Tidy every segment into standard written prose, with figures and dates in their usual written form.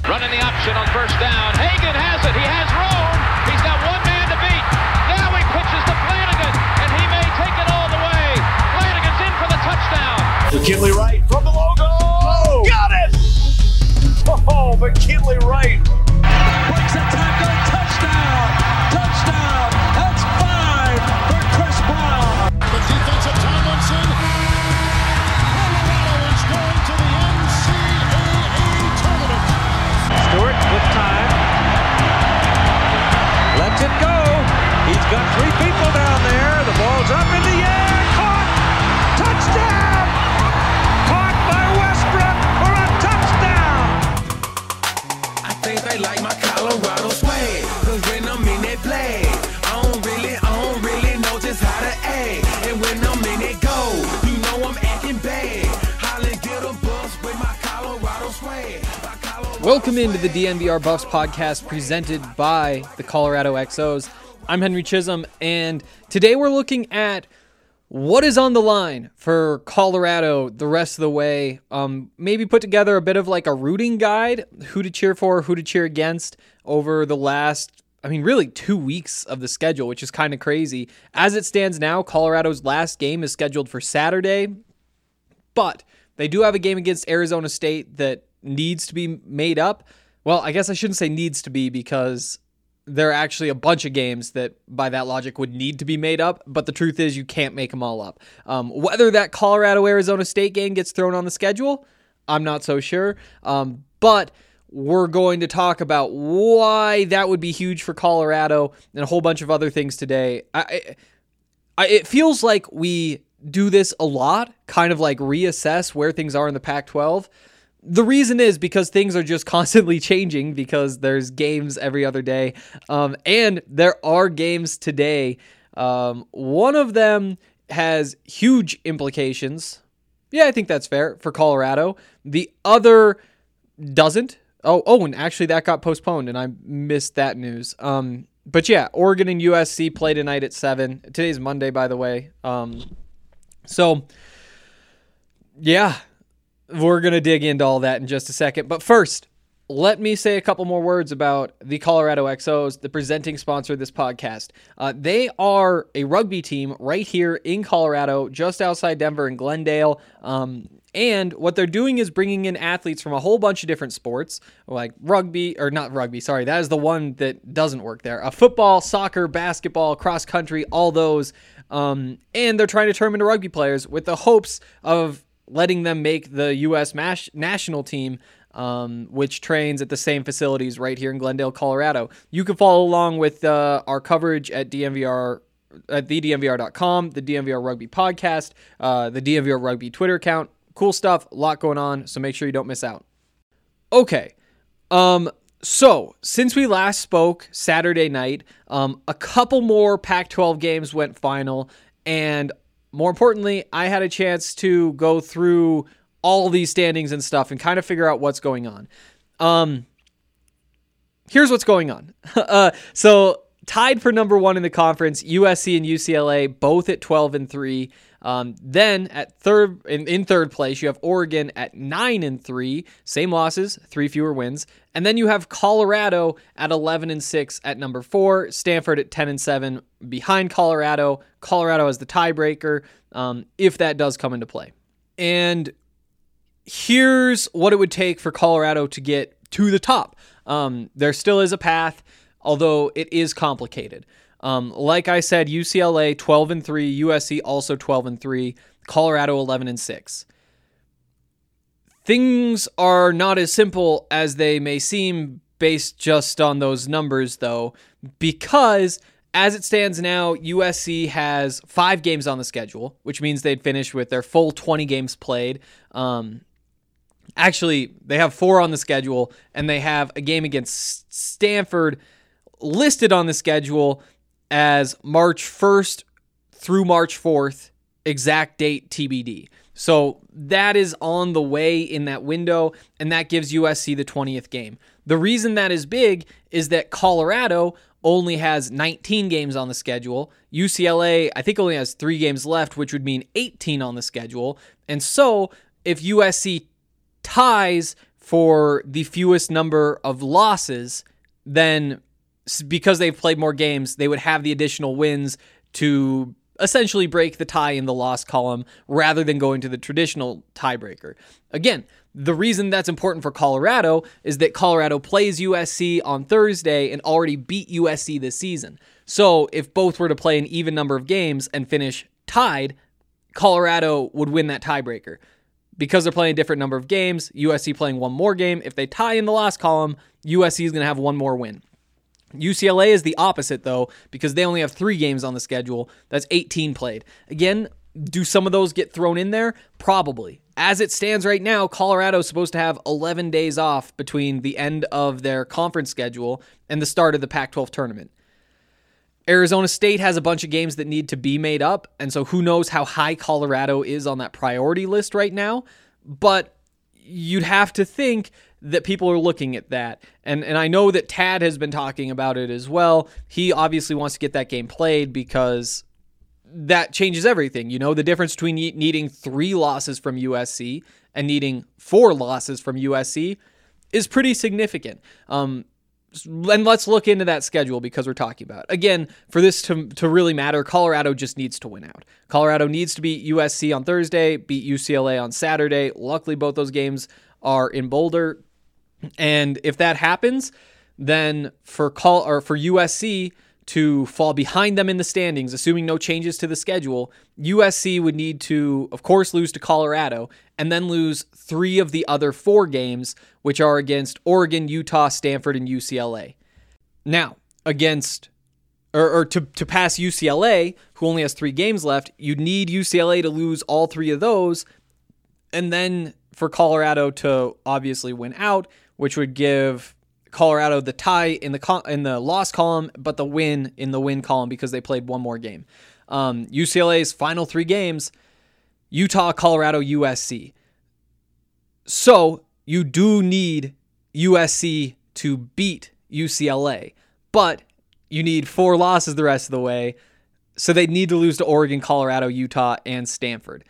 Running the option on first down. Hagan has it. He has room. He's got one man to beat. Now he pitches to Flanagan, and he may take it all the way. Flanagan's in for the touchdown. McKinley Wright from the logo. Oh, got it! Oh, McKinley Wright. Breaks a tackle. Touchdown. Touchdown. That's 5 for Chris Brown. The defense of Tomlinson. Colorado is going to the NCAA tournament. Stewart with time. Lets it go. He's got 3 people down there. The ball's up in the air. Caught. Touchdown. Caught by Westbrook for a touchdown. I think they like my Colorado swag. Cause when I'm in that play, I don't really know just how to act. And when I'm in it go, you know I'm acting bad. Holland get a bus with my Colorado swag. Welcome into the DNVR Buffs podcast presented by the Colorado XOs. I'm Henry Chisholm, and today we're looking at what is on the line for Colorado the rest of the way. Maybe put together a bit of like a rooting guide, who to cheer for, who to cheer against over the last, really 2 weeks of the schedule, which is kind of crazy. As it stands now, Colorado's last game is scheduled for Saturday, but they do have a game against Arizona State that needs to be made up. Well, I guess I shouldn't say needs to be, because there are actually a bunch of games that by that logic would need to be made up, but the truth is you can't make them all up. Whether that Colorado-Arizona State game gets thrown on the schedule, I'm not so sure, but we're going to talk about why that would be huge for Colorado and a whole bunch of other things today. It feels like we do this a lot, kind of like reassess where things are in the Pac-12. The reason is because things are just constantly changing, because there's games every other day, and there are games today. One of them has huge implications. Yeah, I think that's fair for Colorado. The other doesn't. Oh, and actually that got postponed, and I missed that news. But yeah, Oregon and USC play tonight at 7. Today's Monday, by the way. So yeah. We're going to dig into all that in just a second. But first, let me say a couple more words about the Colorado XOs, the presenting sponsor of this podcast. They are a rugby team right here in Colorado, just outside Denver and Glendale. And what they're doing is bringing in athletes from a whole bunch of different sports, like that is the one that doesn't work there. Football, soccer, basketball, cross country, all those. And they're trying to turn them into rugby players with the hopes of letting them make the U.S. national team, which trains at the same facilities right here in Glendale, Colorado. You can follow along with our coverage at DNVR, at thednvr.com, the DNVR Rugby podcast, the DNVR Rugby Twitter account. Cool stuff, a lot going on, so make sure you don't miss out. Okay, so since we last spoke Saturday night, a couple more Pac-12 games went final, and more importantly, I had a chance to go through all these standings and stuff and kind of figure out what's going on. Here's what's going on. So tied for number 1 in the conference, USC and UCLA, both at 12-3. Then at in third place, you have Oregon at 9-3, same losses, 3 fewer wins. And then you have Colorado at 11-6 at number 4, Stanford at 10-7 behind Colorado. Colorado as the tiebreaker, if that does come into play. And here's what it would take for Colorado to get to the top. There still is a path, although it is complicated. Like I said, UCLA 12-3, USC also 12-3, Colorado 11-6. Things are not as simple as they may seem based just on those numbers, though, because as it stands now, USC has 5 games on the schedule, which means they'd finish with their full 20 games played. Actually, they have 4 on the schedule, and they have a game against Stanford listed on the schedule as March 1st through March 4th, exact date TBD. So that is on the way in that window, and that gives USC the 20th game. The reason that is big is that Colorado only has 19 games on the schedule. UCLA, I think, only has 3 games left, which would mean 18 on the schedule. And so if USC ties for the fewest number of losses, then because they've played more games, they would have the additional wins to essentially break the tie in the loss column rather than going to the traditional tiebreaker. Again, the reason that's important for Colorado is that Colorado plays USC on Thursday and already beat USC this season. So if both were to play an even number of games and finish tied, Colorado would win that tiebreaker. Because they're playing a different number of games, USC playing one more game, if they tie in the loss column, USC is going to have one more win. UCLA is the opposite, though, because they only have 3 games on the schedule. That's 18 played. Again, do some of those get thrown in there? Probably. As it stands right now, Colorado is supposed to have 11 days off between the end of their conference schedule and the start of the Pac-12 tournament. Arizona State has a bunch of games that need to be made up, and so who knows how high Colorado is on that priority list right now, but you'd have to think that people are looking at that. And I know that Tad has been talking about it as well. He obviously wants to get that game played because that changes everything. You know, the difference between needing 3 losses from USC and needing 4 losses from USC is pretty significant. And let's look into that schedule because we're talking about it. Again, for this to really matter, Colorado just needs to win out. Colorado needs to beat USC on Thursday, beat UCLA on Saturday. Luckily, both those games are in Boulder. And if that happens, then for USC to fall behind them in the standings, assuming no changes to the schedule, USC would need to, of course, lose to Colorado and then lose 3 of the other 4 games, which are against Oregon, Utah, Stanford, and UCLA. Now, to pass UCLA, who only has 3 games left, you'd need UCLA to lose all 3 of those, and then for Colorado to obviously win out, which would give Colorado the tie in the loss column, but the win in the win column because they played one more game. UCLA's final 3 games, Utah, Colorado, USC. So you do need USC to beat UCLA, but you need 4 losses the rest of the way. So they need to lose to Oregon, Colorado, Utah, and Stanford.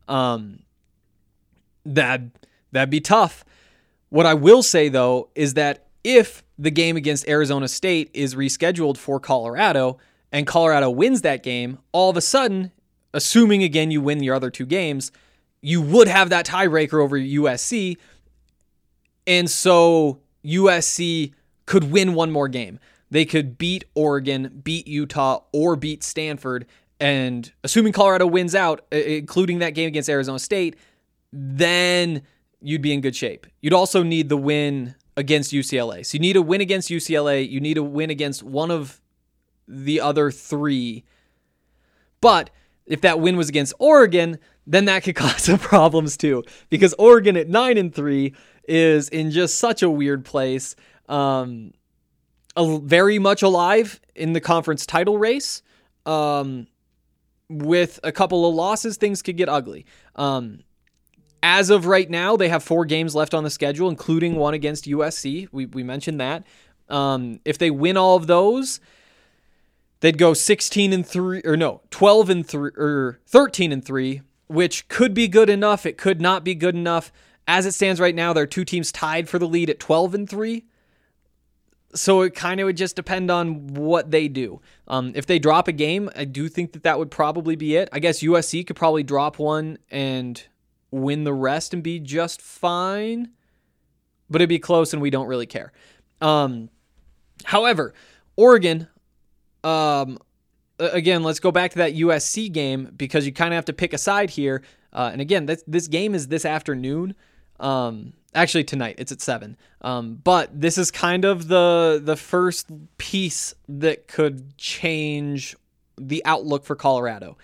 That'd be tough. What I will say, though, is that if the game against Arizona State is rescheduled for Colorado and Colorado wins that game, all of a sudden, assuming, again, you win your other 2 games, you would have that tiebreaker over USC. And so USC could win one more game. They could beat Oregon, beat Utah, or beat Stanford. And assuming Colorado wins out, including that game against Arizona State, then you'd be in good shape. You'd also need the win against UCLA. So you need a win against UCLA. You need a win against one of the other 3. But if that win was against Oregon, then that could cause some problems too. Because Oregon at 9-3 is in just such a weird place. Very much alive in the conference title race. With a couple of losses, things could get ugly. As of right now, they have 4 games left on the schedule, including one against USC. We mentioned that. If they win all of those, they'd go 12-3 or 13-3, which could be good enough. It could not be good enough. As it stands right now, there are 2 teams tied for the lead at 12-3. So it kind of would just depend on what they do. If they drop a game, I do think that would probably be it. I guess USC could probably drop one and win the rest and be just fine, but it'd be close and we don't really care. However, Oregon, again, let's go back to that USC game because you kind of have to pick a side here. And again, this game is this afternoon. Actually tonight, it's at 7. But this is kind of the first piece that could change the outlook for Colorado.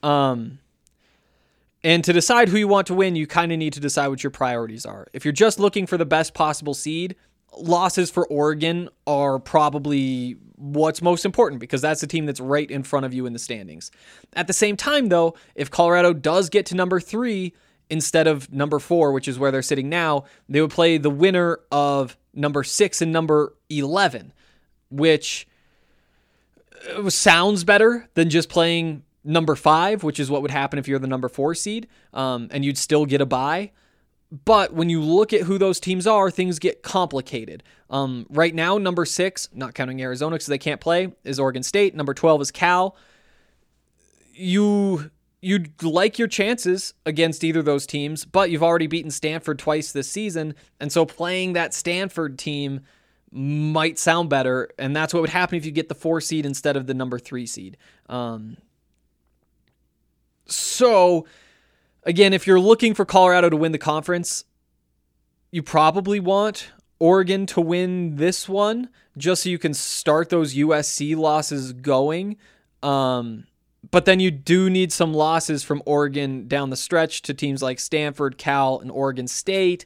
And to decide who you want to win, you kind of need to decide what your priorities are. If you're just looking for the best possible seed, losses for Oregon are probably what's most important because that's the team that's right in front of you in the standings. At the same time, though, if Colorado does get to number 3 instead of number 4, which is where they're sitting now, they would play the winner of number 6 and number 11, which sounds better than just playing number 5, which is what would happen if you're the number 4 seed, and you'd still get a bye. But when you look at who those teams are, things get complicated. Right now, number 6, not counting Arizona because they can't play, is Oregon State. Number 12 is Cal. You'd like your chances against either of those teams, but you've already beaten Stanford twice this season, and so playing that Stanford team might sound better, and that's what would happen if you get the 4 seed instead of the number 3 seed. So, again, if you're looking for Colorado to win the conference, you probably want Oregon to win this one, just so you can start those USC losses going. But then you do need some losses from Oregon down the stretch to teams like Stanford, Cal, and Oregon State.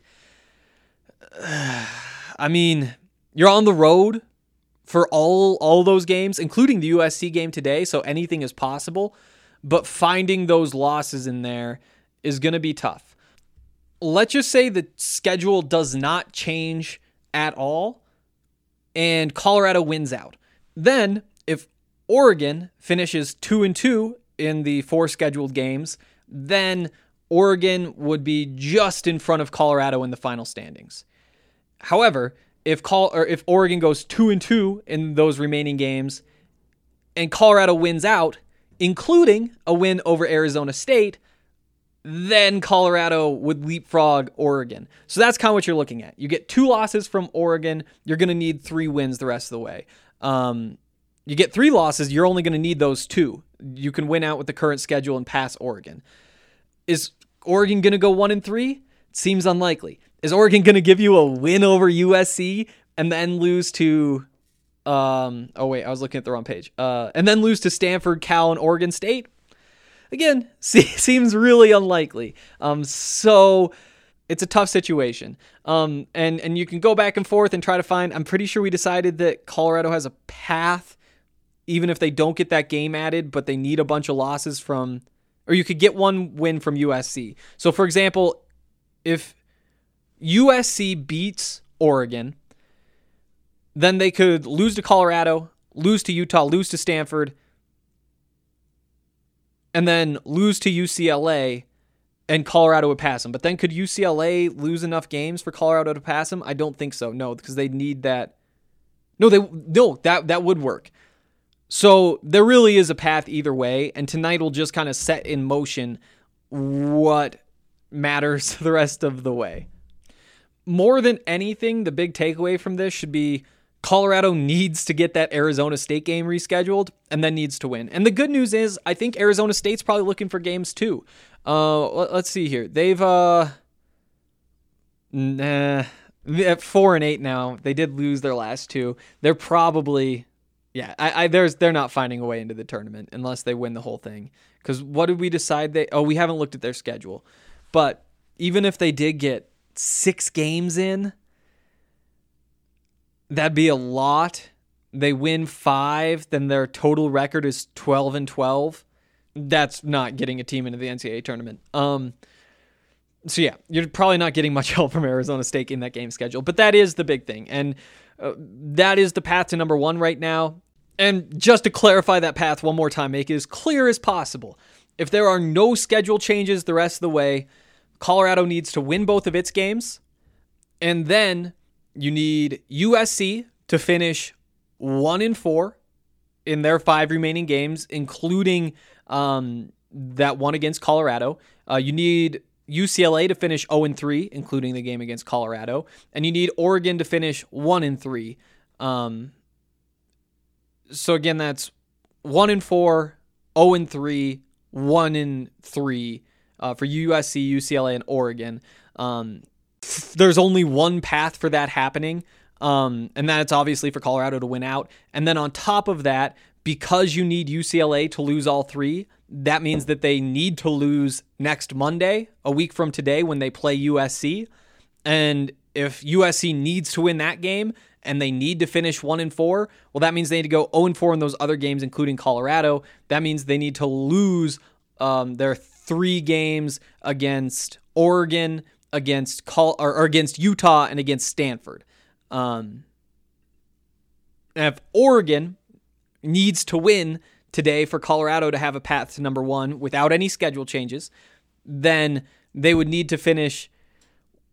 I mean, you're on the road for all those games, including the USC game today, so anything is possible. But finding those losses in there is going to be tough. Let's just say the schedule does not change at all, and Colorado wins out. Then, if Oregon finishes 2-2 in the 4 scheduled games, then Oregon would be just in front of Colorado in the final standings. However, if Oregon goes 2-2 in those remaining games and Colorado wins out, including a win over Arizona State, then Colorado would leapfrog Oregon. So that's kind of what you're looking at. You get 2 losses from Oregon, you're going to need 3 wins the rest of the way. You get 3 losses, you're only going to need those 2. You can win out with the current schedule and pass Oregon. Is Oregon going to go 1-3? It seems unlikely. Is Oregon going to give you a win over USC and then lose to... I was looking at the wrong page. And then lose to Stanford, Cal, and Oregon State? Again, seems really unlikely. So it's a tough situation. And you can go back and forth and try to find... I'm pretty sure we decided that Colorado has a path, even if they don't get that game added, but they need a bunch of losses from... Or you could get 1 win from USC. So, for example, if USC beats Oregon, then they could lose to Colorado, lose to Utah, lose to Stanford, and then lose to UCLA, and Colorado would pass them. But then could UCLA lose enough games for Colorado to pass them? I don't think so. No, because they need that. That would work. So there really is a path either way, and tonight will just kind of set in motion what matters the rest of the way. More than anything, the big takeaway from this should be Colorado needs to get that Arizona State game rescheduled and then needs to win. And the good news is I think Arizona State's probably looking for games too. Let's see here. They've at 4-8 now. They did lose their last 2. They're probably they're not finding a way into the tournament unless they win the whole thing. Because what did we decide? We haven't looked at their schedule. But even if they did get 6 games in, that'd be a lot. They win 5, then their total record is 12-12. That's not getting a team into the NCAA tournament. So yeah, you're probably not getting much help from Arizona State in that game schedule, but that is the big thing. And that is the path to number 1 right now. And just to clarify that path one more time, make it as clear as possible. If there are no schedule changes the rest of the way, Colorado needs to win both of its games, and then you need USC to finish 1-4 in their 5 remaining games, including that one against Colorado. You need UCLA to finish 0-3, including the game against Colorado, and you need Oregon to finish 1-3. So again, that's 1-4, 0-3, 1-3 for USC, UCLA, and Oregon. There's only one path for that happening, and that's obviously for Colorado to win out. And then on top of that, because you need UCLA to lose all 3, that means that they need to lose next Monday, a week from today, when they play USC. And if USC needs to win that game and they need to finish 1-4, well, that means they need to go 0-4 in those other games, including Colorado. That means they need to lose their 3 games against Oregon, against Utah, and against Stanford. And if Oregon needs to win today for Colorado to have a path to number 1 without any schedule changes, then they would need to finish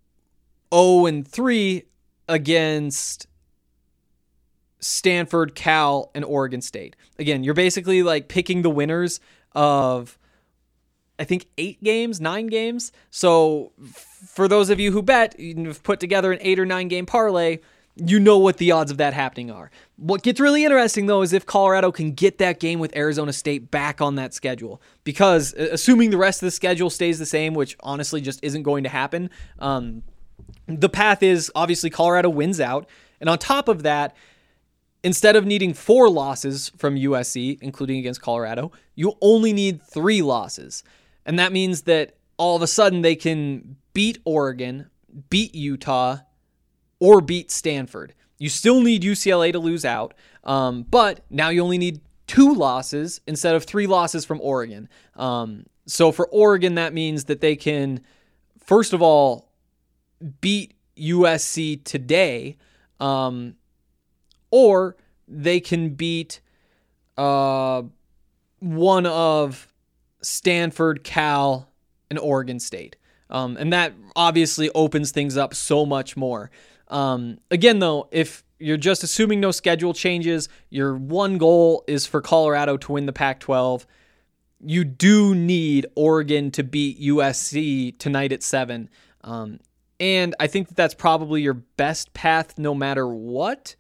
0-3 against Stanford, Cal, and Oregon State. Again, you're basically like picking the winners of, I think, 9 games. So for those of you who bet, you've put together an 8 or 9 game parlay, you know what the odds of that happening are. What gets really interesting, though, is if Colorado can get that game with Arizona State back on that schedule. Because assuming the rest of the schedule stays the same, which honestly just isn't going to happen, the path is obviously Colorado wins out. And on top of that, instead of needing 4 losses from USC, including against Colorado, you only need 3 losses. And that means that all of a sudden they can beat Oregon, beat Utah, or beat Stanford. You still need UCLA to lose out, but now you only need 2 losses instead of 3 losses from Oregon. So for Oregon, that means that they can, first of all, beat USC today, or they can beat one of Stanford, Cal, and Oregon State. And that obviously opens things up so much more. Again, though, if you're just assuming no schedule changes, your one goal is for Colorado to win the Pac-12. You do need Oregon to beat USC tonight at 7. And I think that that's probably your best path no matter what.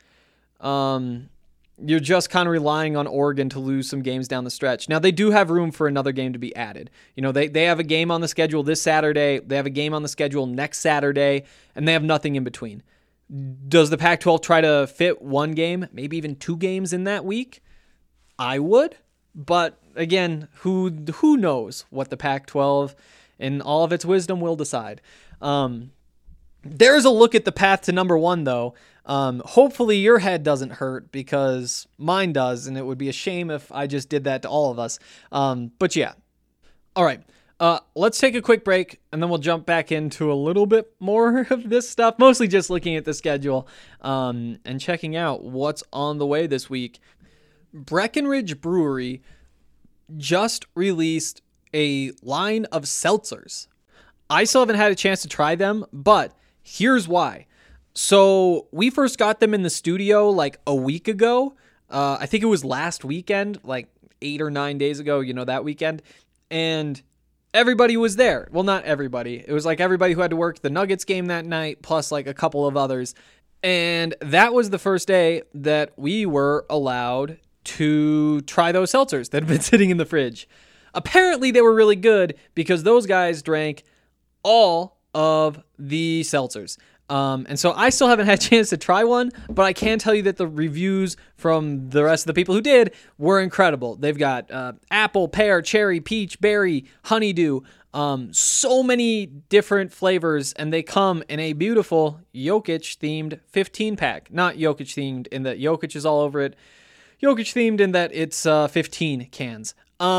You're just kind of relying on Oregon to lose some games down the stretch. Now, they do have room for another game to be added. You know, they have a game on the schedule this Saturday. They have a game on the schedule next Saturday, and they have nothing in between. Does the Pac-12 try to fit 1 game, maybe even 2 games in that week? I would. But again, who knows what the Pac-12 in all of its wisdom will decide. There's a look at the path to number 1, though. Hopefully your head doesn't hurt because mine does, and it would be a shame if I just did that to all of us. But yeah. All right. Let's take a quick break, and then we'll jump back into a little bit more of this stuff, mostly just looking at the schedule and checking out what's on the way this week. Breckenridge Brewery just released a line of seltzers. I still haven't had a chance to try them, but here's why. So we first got them in the studio like a week ago. I think it was last weekend, like 8 or 9 days ago, you know, that weekend. And everybody was there. Well, not everybody. It was like everybody who had to work the Nuggets game that night, plus like a couple of others. And that was the first day that we were allowed to try those seltzers that had been sitting in the fridge. Apparently they were really good because those guys drank all of the seltzers. And so I still haven't had a chance to try one, but I can tell you that the reviews from the rest of the people who did were incredible. They've got apple, pear, cherry, peach, berry, honeydew, so many different flavors, and they come in a beautiful Jokic-themed 15-pack. Not Jokic-themed in that Jokic is all over it. Jokic-themed in that it's 15 cans.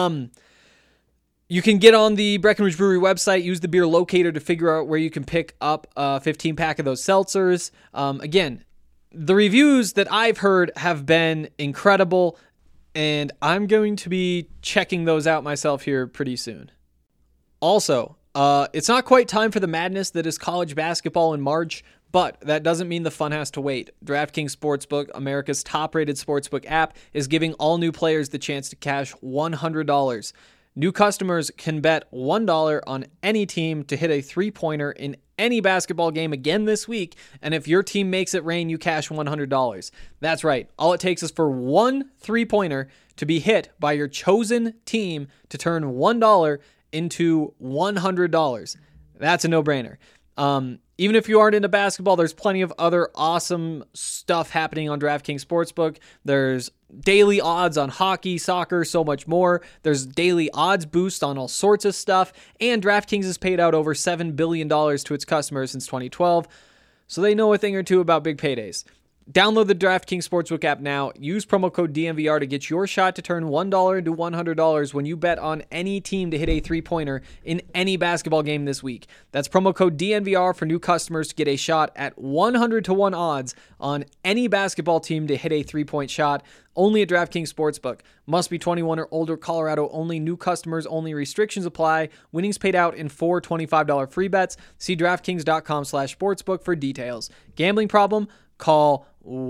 You can get on the Breckenridge Brewery website, use the beer locator to figure out where you can pick up a 15-pack of those seltzers. Again, the reviews that I've heard have been incredible, and I'm going to be checking those out myself here pretty soon. Also, it's not quite time for the madness that is college basketball in March, but that doesn't mean the fun has to wait. DraftKings Sportsbook, America's top-rated sportsbook app, is giving all new players the chance to cash $100. New customers can bet $1 on any team to hit a 3-pointer in any basketball game again this week, and if your team makes it rain, you cash $100. That's right. All it takes is for one 3-pointer to be hit by your chosen team to turn $1 into $100. That's a no-brainer. Even if you aren't into basketball, there's plenty of other awesome stuff happening on DraftKings Sportsbook. There's daily odds on hockey, soccer, so much more. There's daily odds boost on all sorts of stuff. And DraftKings has paid out over $7 billion to its customers since 2012, so they know a thing or two about big paydays. Download the DraftKings Sportsbook app now. Use promo code DNVR to get your shot to turn $1 into $100 when you bet on any team to hit a three-pointer in any basketball game this week. That's promo code DNVR for new customers to get a shot at 100-1 odds on any basketball team to hit a three-point shot. Only at DraftKings Sportsbook. Must be 21 or older. Colorado only. New customers only. Restrictions apply. Winnings paid out in 4 $25 free bets. See DraftKings.com/sportsbook for details. Gambling problem? Call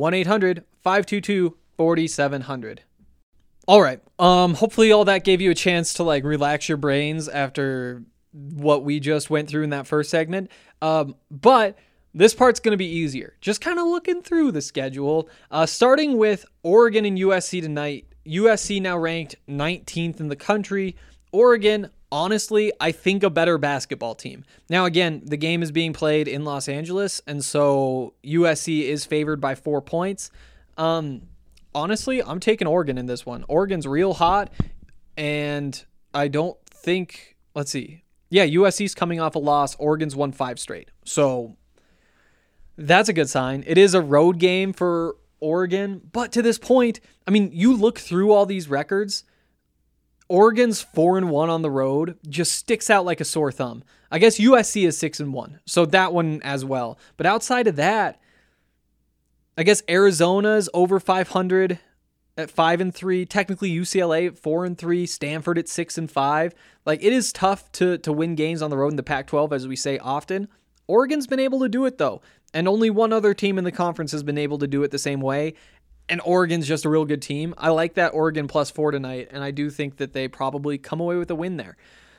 1-800-522-4700. All right. Hopefully all that gave you a chance to relax your brains after what we just went through in that first segment. But this part's going to be easier. Just kind of looking through the schedule, starting with Oregon and USC tonight. USC now ranked 19th in the country. Oregon, honestly, I think a better basketball team. Now, again, the game is being played in Los Angeles, and so USC is favored by 4 points. Honestly, I'm taking Oregon in this one. Oregon's real hot, and I don't think, let's see. Yeah, USC's coming off a loss. Oregon's won 5 straight. So that's a good sign. It is a road game for Oregon, but to this point, I mean, you look through all these records, Oregon's 4-1 on the road just sticks out like a sore thumb. I guess USC is 6-1, so that one as well. But outside of that, I guess Arizona's over 500 at 5-3. Technically UCLA at 4-3. Stanford at 6-5. It is tough to win games on the road in the Pac-12, as we say often. Oregon's been able to do it though, and only one other team in the conference has been able to do it the same way. And Oregon's just a real good team. I like that Oregon +4 tonight, and I do think that they probably come away with a win there.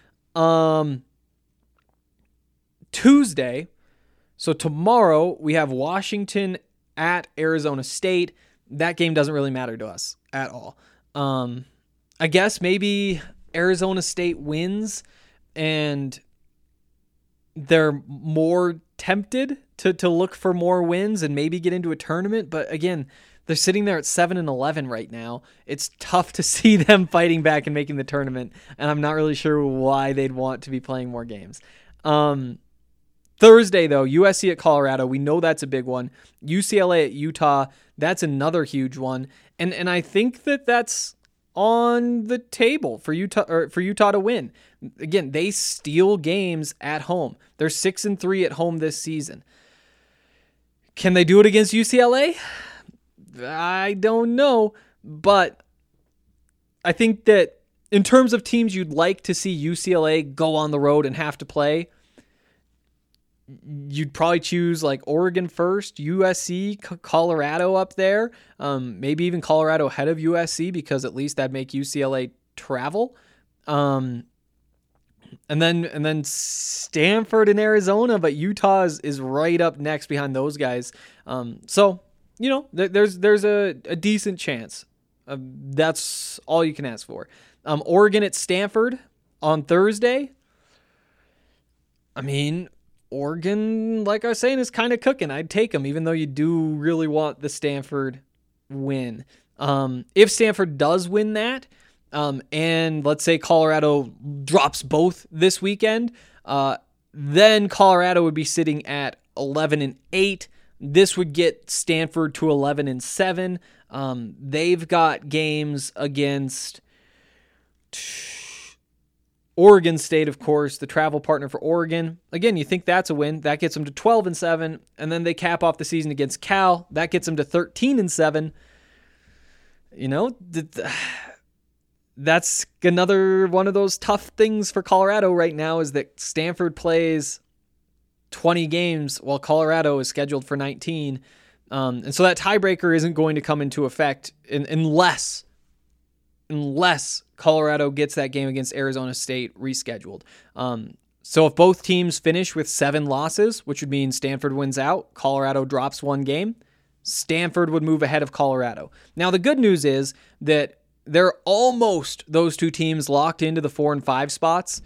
Tuesday, so tomorrow, we have Washington at Arizona State. That game doesn't really matter to us at all. I guess maybe Arizona State wins, and they're more tempted to look for more wins and maybe get into a tournament. But again, they're sitting there at 7-11 right now. It's tough to see them fighting back and making the tournament, and I'm not really sure why they'd want to be playing more games. Thursday, though, USC at Colorado. We know that's a big one. UCLA at Utah. That's another huge one. And I think that's on the table for Utah to win. Again, they steal games at home. They're 6-3 at home this season. Can they do it against UCLA? I don't know, but I think that in terms of teams you'd like to see UCLA go on the road and have to play, you'd probably choose Oregon first, USC, Colorado up there, maybe even Colorado ahead of USC, because at least that'd make UCLA travel. And then Stanford and Arizona, but Utah is right up next behind those guys. So there's a decent chance. That's all you can ask for. Oregon at Stanford on Thursday. I mean, Oregon, like I was saying, is kind of cooking. I'd take them, even though you do really want the Stanford win. If Stanford does win that, and let's say Colorado drops both this weekend, then Colorado would be sitting at 11-8. This would get Stanford to 11-7. They've got games against Oregon State, of course, the travel partner for Oregon. Again, you think that's a win. That gets them to 12-7, and then they cap off the season against Cal. That gets them to 13-7. That's another one of those tough things for Colorado right now, is that Stanford plays 20 games while Colorado is scheduled for 19. And so that tiebreaker isn't going to come into effect unless Colorado gets that game against Arizona State rescheduled. So if both teams finish with 7 losses, which would mean Stanford wins out, Colorado drops 1 game, Stanford would move ahead of Colorado. Now, the good news is that they're almost, those two teams, locked into the 4 and 5 spots.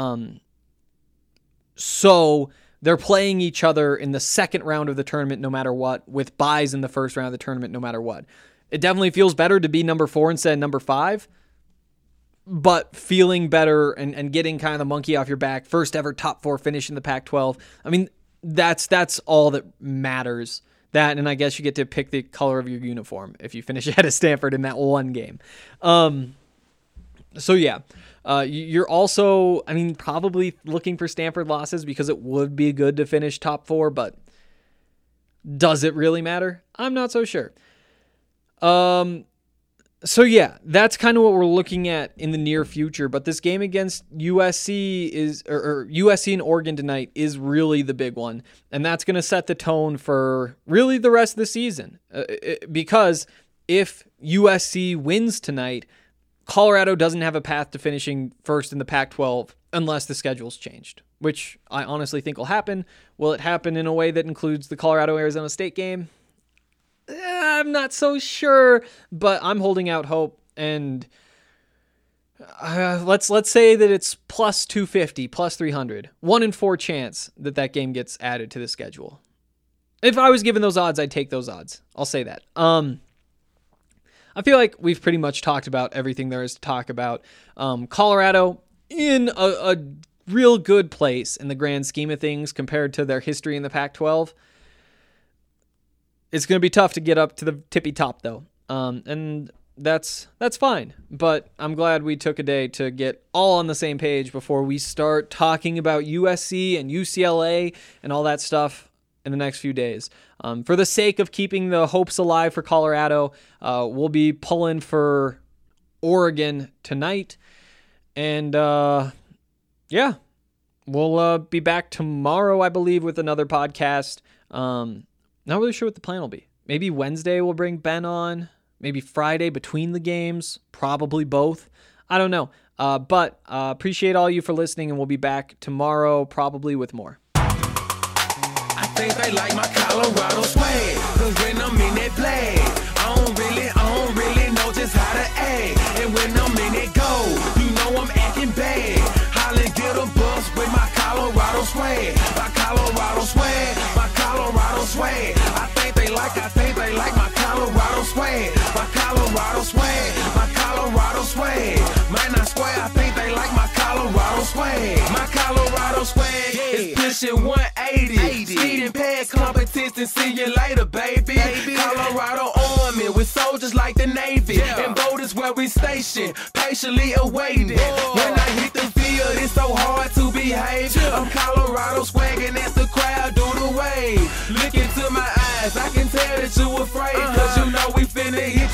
So they're playing each other in the second round of the tournament no matter what, with byes in the first round of the tournament no matter what. It definitely feels better to be number 4 instead of number 5, but feeling better and getting kind of the monkey off your back, first ever top 4 finish in the Pac-12. I mean, that's all that matters. That, and I guess you get to pick the color of your uniform if you finish ahead of Stanford in that one game. So yeah, you're also, I mean, probably looking for Stanford losses because it would be good to finish top 4, but does it really matter? I'm not so sure. So yeah, that's kind of what we're looking at in the near future. But this game against USC or USC and Oregon tonight is really the big one, and that's going to set the tone for really the rest of the season. Because if USC wins tonight, Colorado doesn't have a path to finishing first in the Pac-12 unless the schedule's changed, which I honestly think will happen. Will it happen in a way that includes the Colorado-Arizona State game? I'm not so sure, but I'm holding out hope, and let's say that it's plus 250, plus 300, 1 in 4 chance that game gets added to the schedule. If I was given those odds, I'd take those odds. I'll say that. I feel like we've pretty much talked about everything there is to talk about. Colorado in a real good place in the grand scheme of things compared to their history in the Pac-12. It's going to be tough to get up to the tippy top, though, and that's fine. But I'm glad we took a day to get all on the same page before we start talking about USC and UCLA and all that stuff in the next few days. For the sake of keeping the hopes alive for Colorado, we'll be pulling for Oregon tonight, and yeah, we'll be back tomorrow, I believe, with another podcast. Not really sure what the plan will be. Maybe Wednesday we'll bring Ben on. Maybe Friday between the games. Probably both. I don't know. But appreciate all you for listening, and we'll be back tomorrow probably with more. I think they like my Colorado swag, cause when I'm in that play, I don't really know just how to act. And when I'm in that go, you know I'm acting bad. Holla, get a bus with my Colorado swag. My Colorado swag, my Colorado swag. I think they like my Colorado swag. My Colorado swag, my Colorado swag. Man, I swear I think they like my Colorado swag. My Colorado swag is pushing 180. Speeding past competition, see you later, baby. Colorado Army with soldiers like the Navy. And boat is where we station, patiently awaiting. When I hit the field, it's so hard to behave. I'm Colorado swagging as the crowd do the wave. Look into my eyes, I can tell that you afraid. Cause you know we finna hit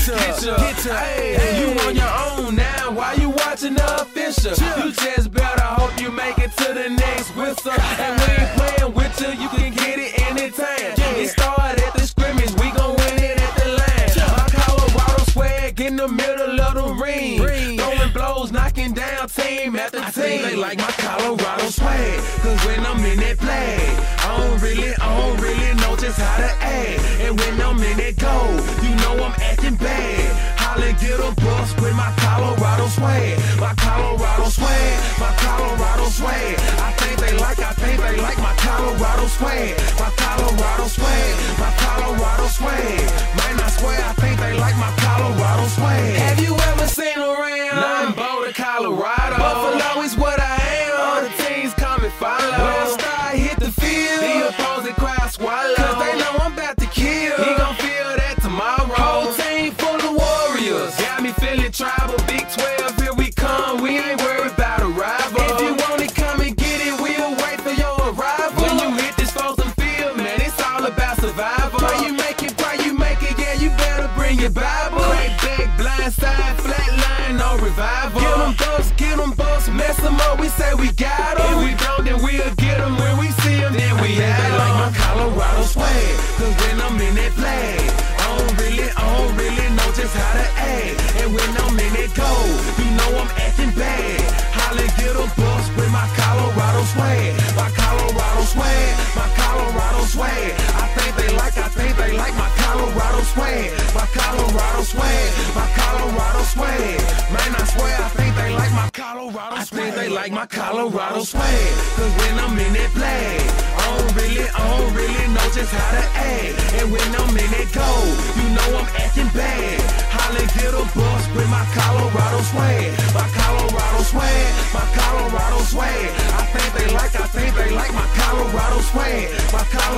ya. Hey, you on your own now, why you watching the official? You just better hope you make it to the next whistle. And we ain't playing with you can get it anytime. It started at the scrimmage, we gon' win it at the line. My Colorado swag in the middle of the ring. Throwing blows, knocking down team after team. I think they like my Colorado swag, cause when I'm in that play, I don't really know just how to act. And when I'm in that go, you know I'm acting bad. Holla, get a bus with my Colorado swag. My Colorado swag, my Colorado swag. I think they like my Colorado swag. My Colorado swag, my Colorado swag. Man, I swear I think they like my Colorado swag. Have you ever seen around? I'm Boulder, Colorado. Buffalo is what I am. All the teams come and follow. When I start hit the field, the opposing crowd swallow. Cause they know I'm about to kill. He gon' feel that tomorrow. Whole team full of warriors. Got me feeling tribal. Big 12, here we come. We ain't worried about a rival. If you want it, come and get it. We'll wait for your arrival. When you hit this frozen field, man, it's all about survival. Why you make it, yeah, you better bring your Bible. Crack back, blind side, flat line, no revival. Get them busts, mess them up, we say we got them. If we don't, then we'll get them. When we see them, then we have them. They like my Colorado swag, cause when I'm in that play, I don't really know just how to act. And when I'm in that go, you know I'm acting bad. Holla, get a bus with my Colorado swag. My Colorado swag, my Colorado swag. I think they like my Colorado swag. My Colorado swag, my Colorado swag. Man, I swear I think they like my Colorado swag. I think they like my Colorado swag, cause when I'm in that play, I don't really know just how to act. And when I'm in that go, you know I'm acting bad. Holla, get a bus with my Colorado swag. My Colorado swag, my Colorado swag. I think they like my Colorado swag. My Colorado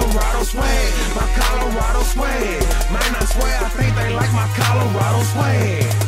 swag, my Colorado swag. Man, I swear I think they like my Colorado swag.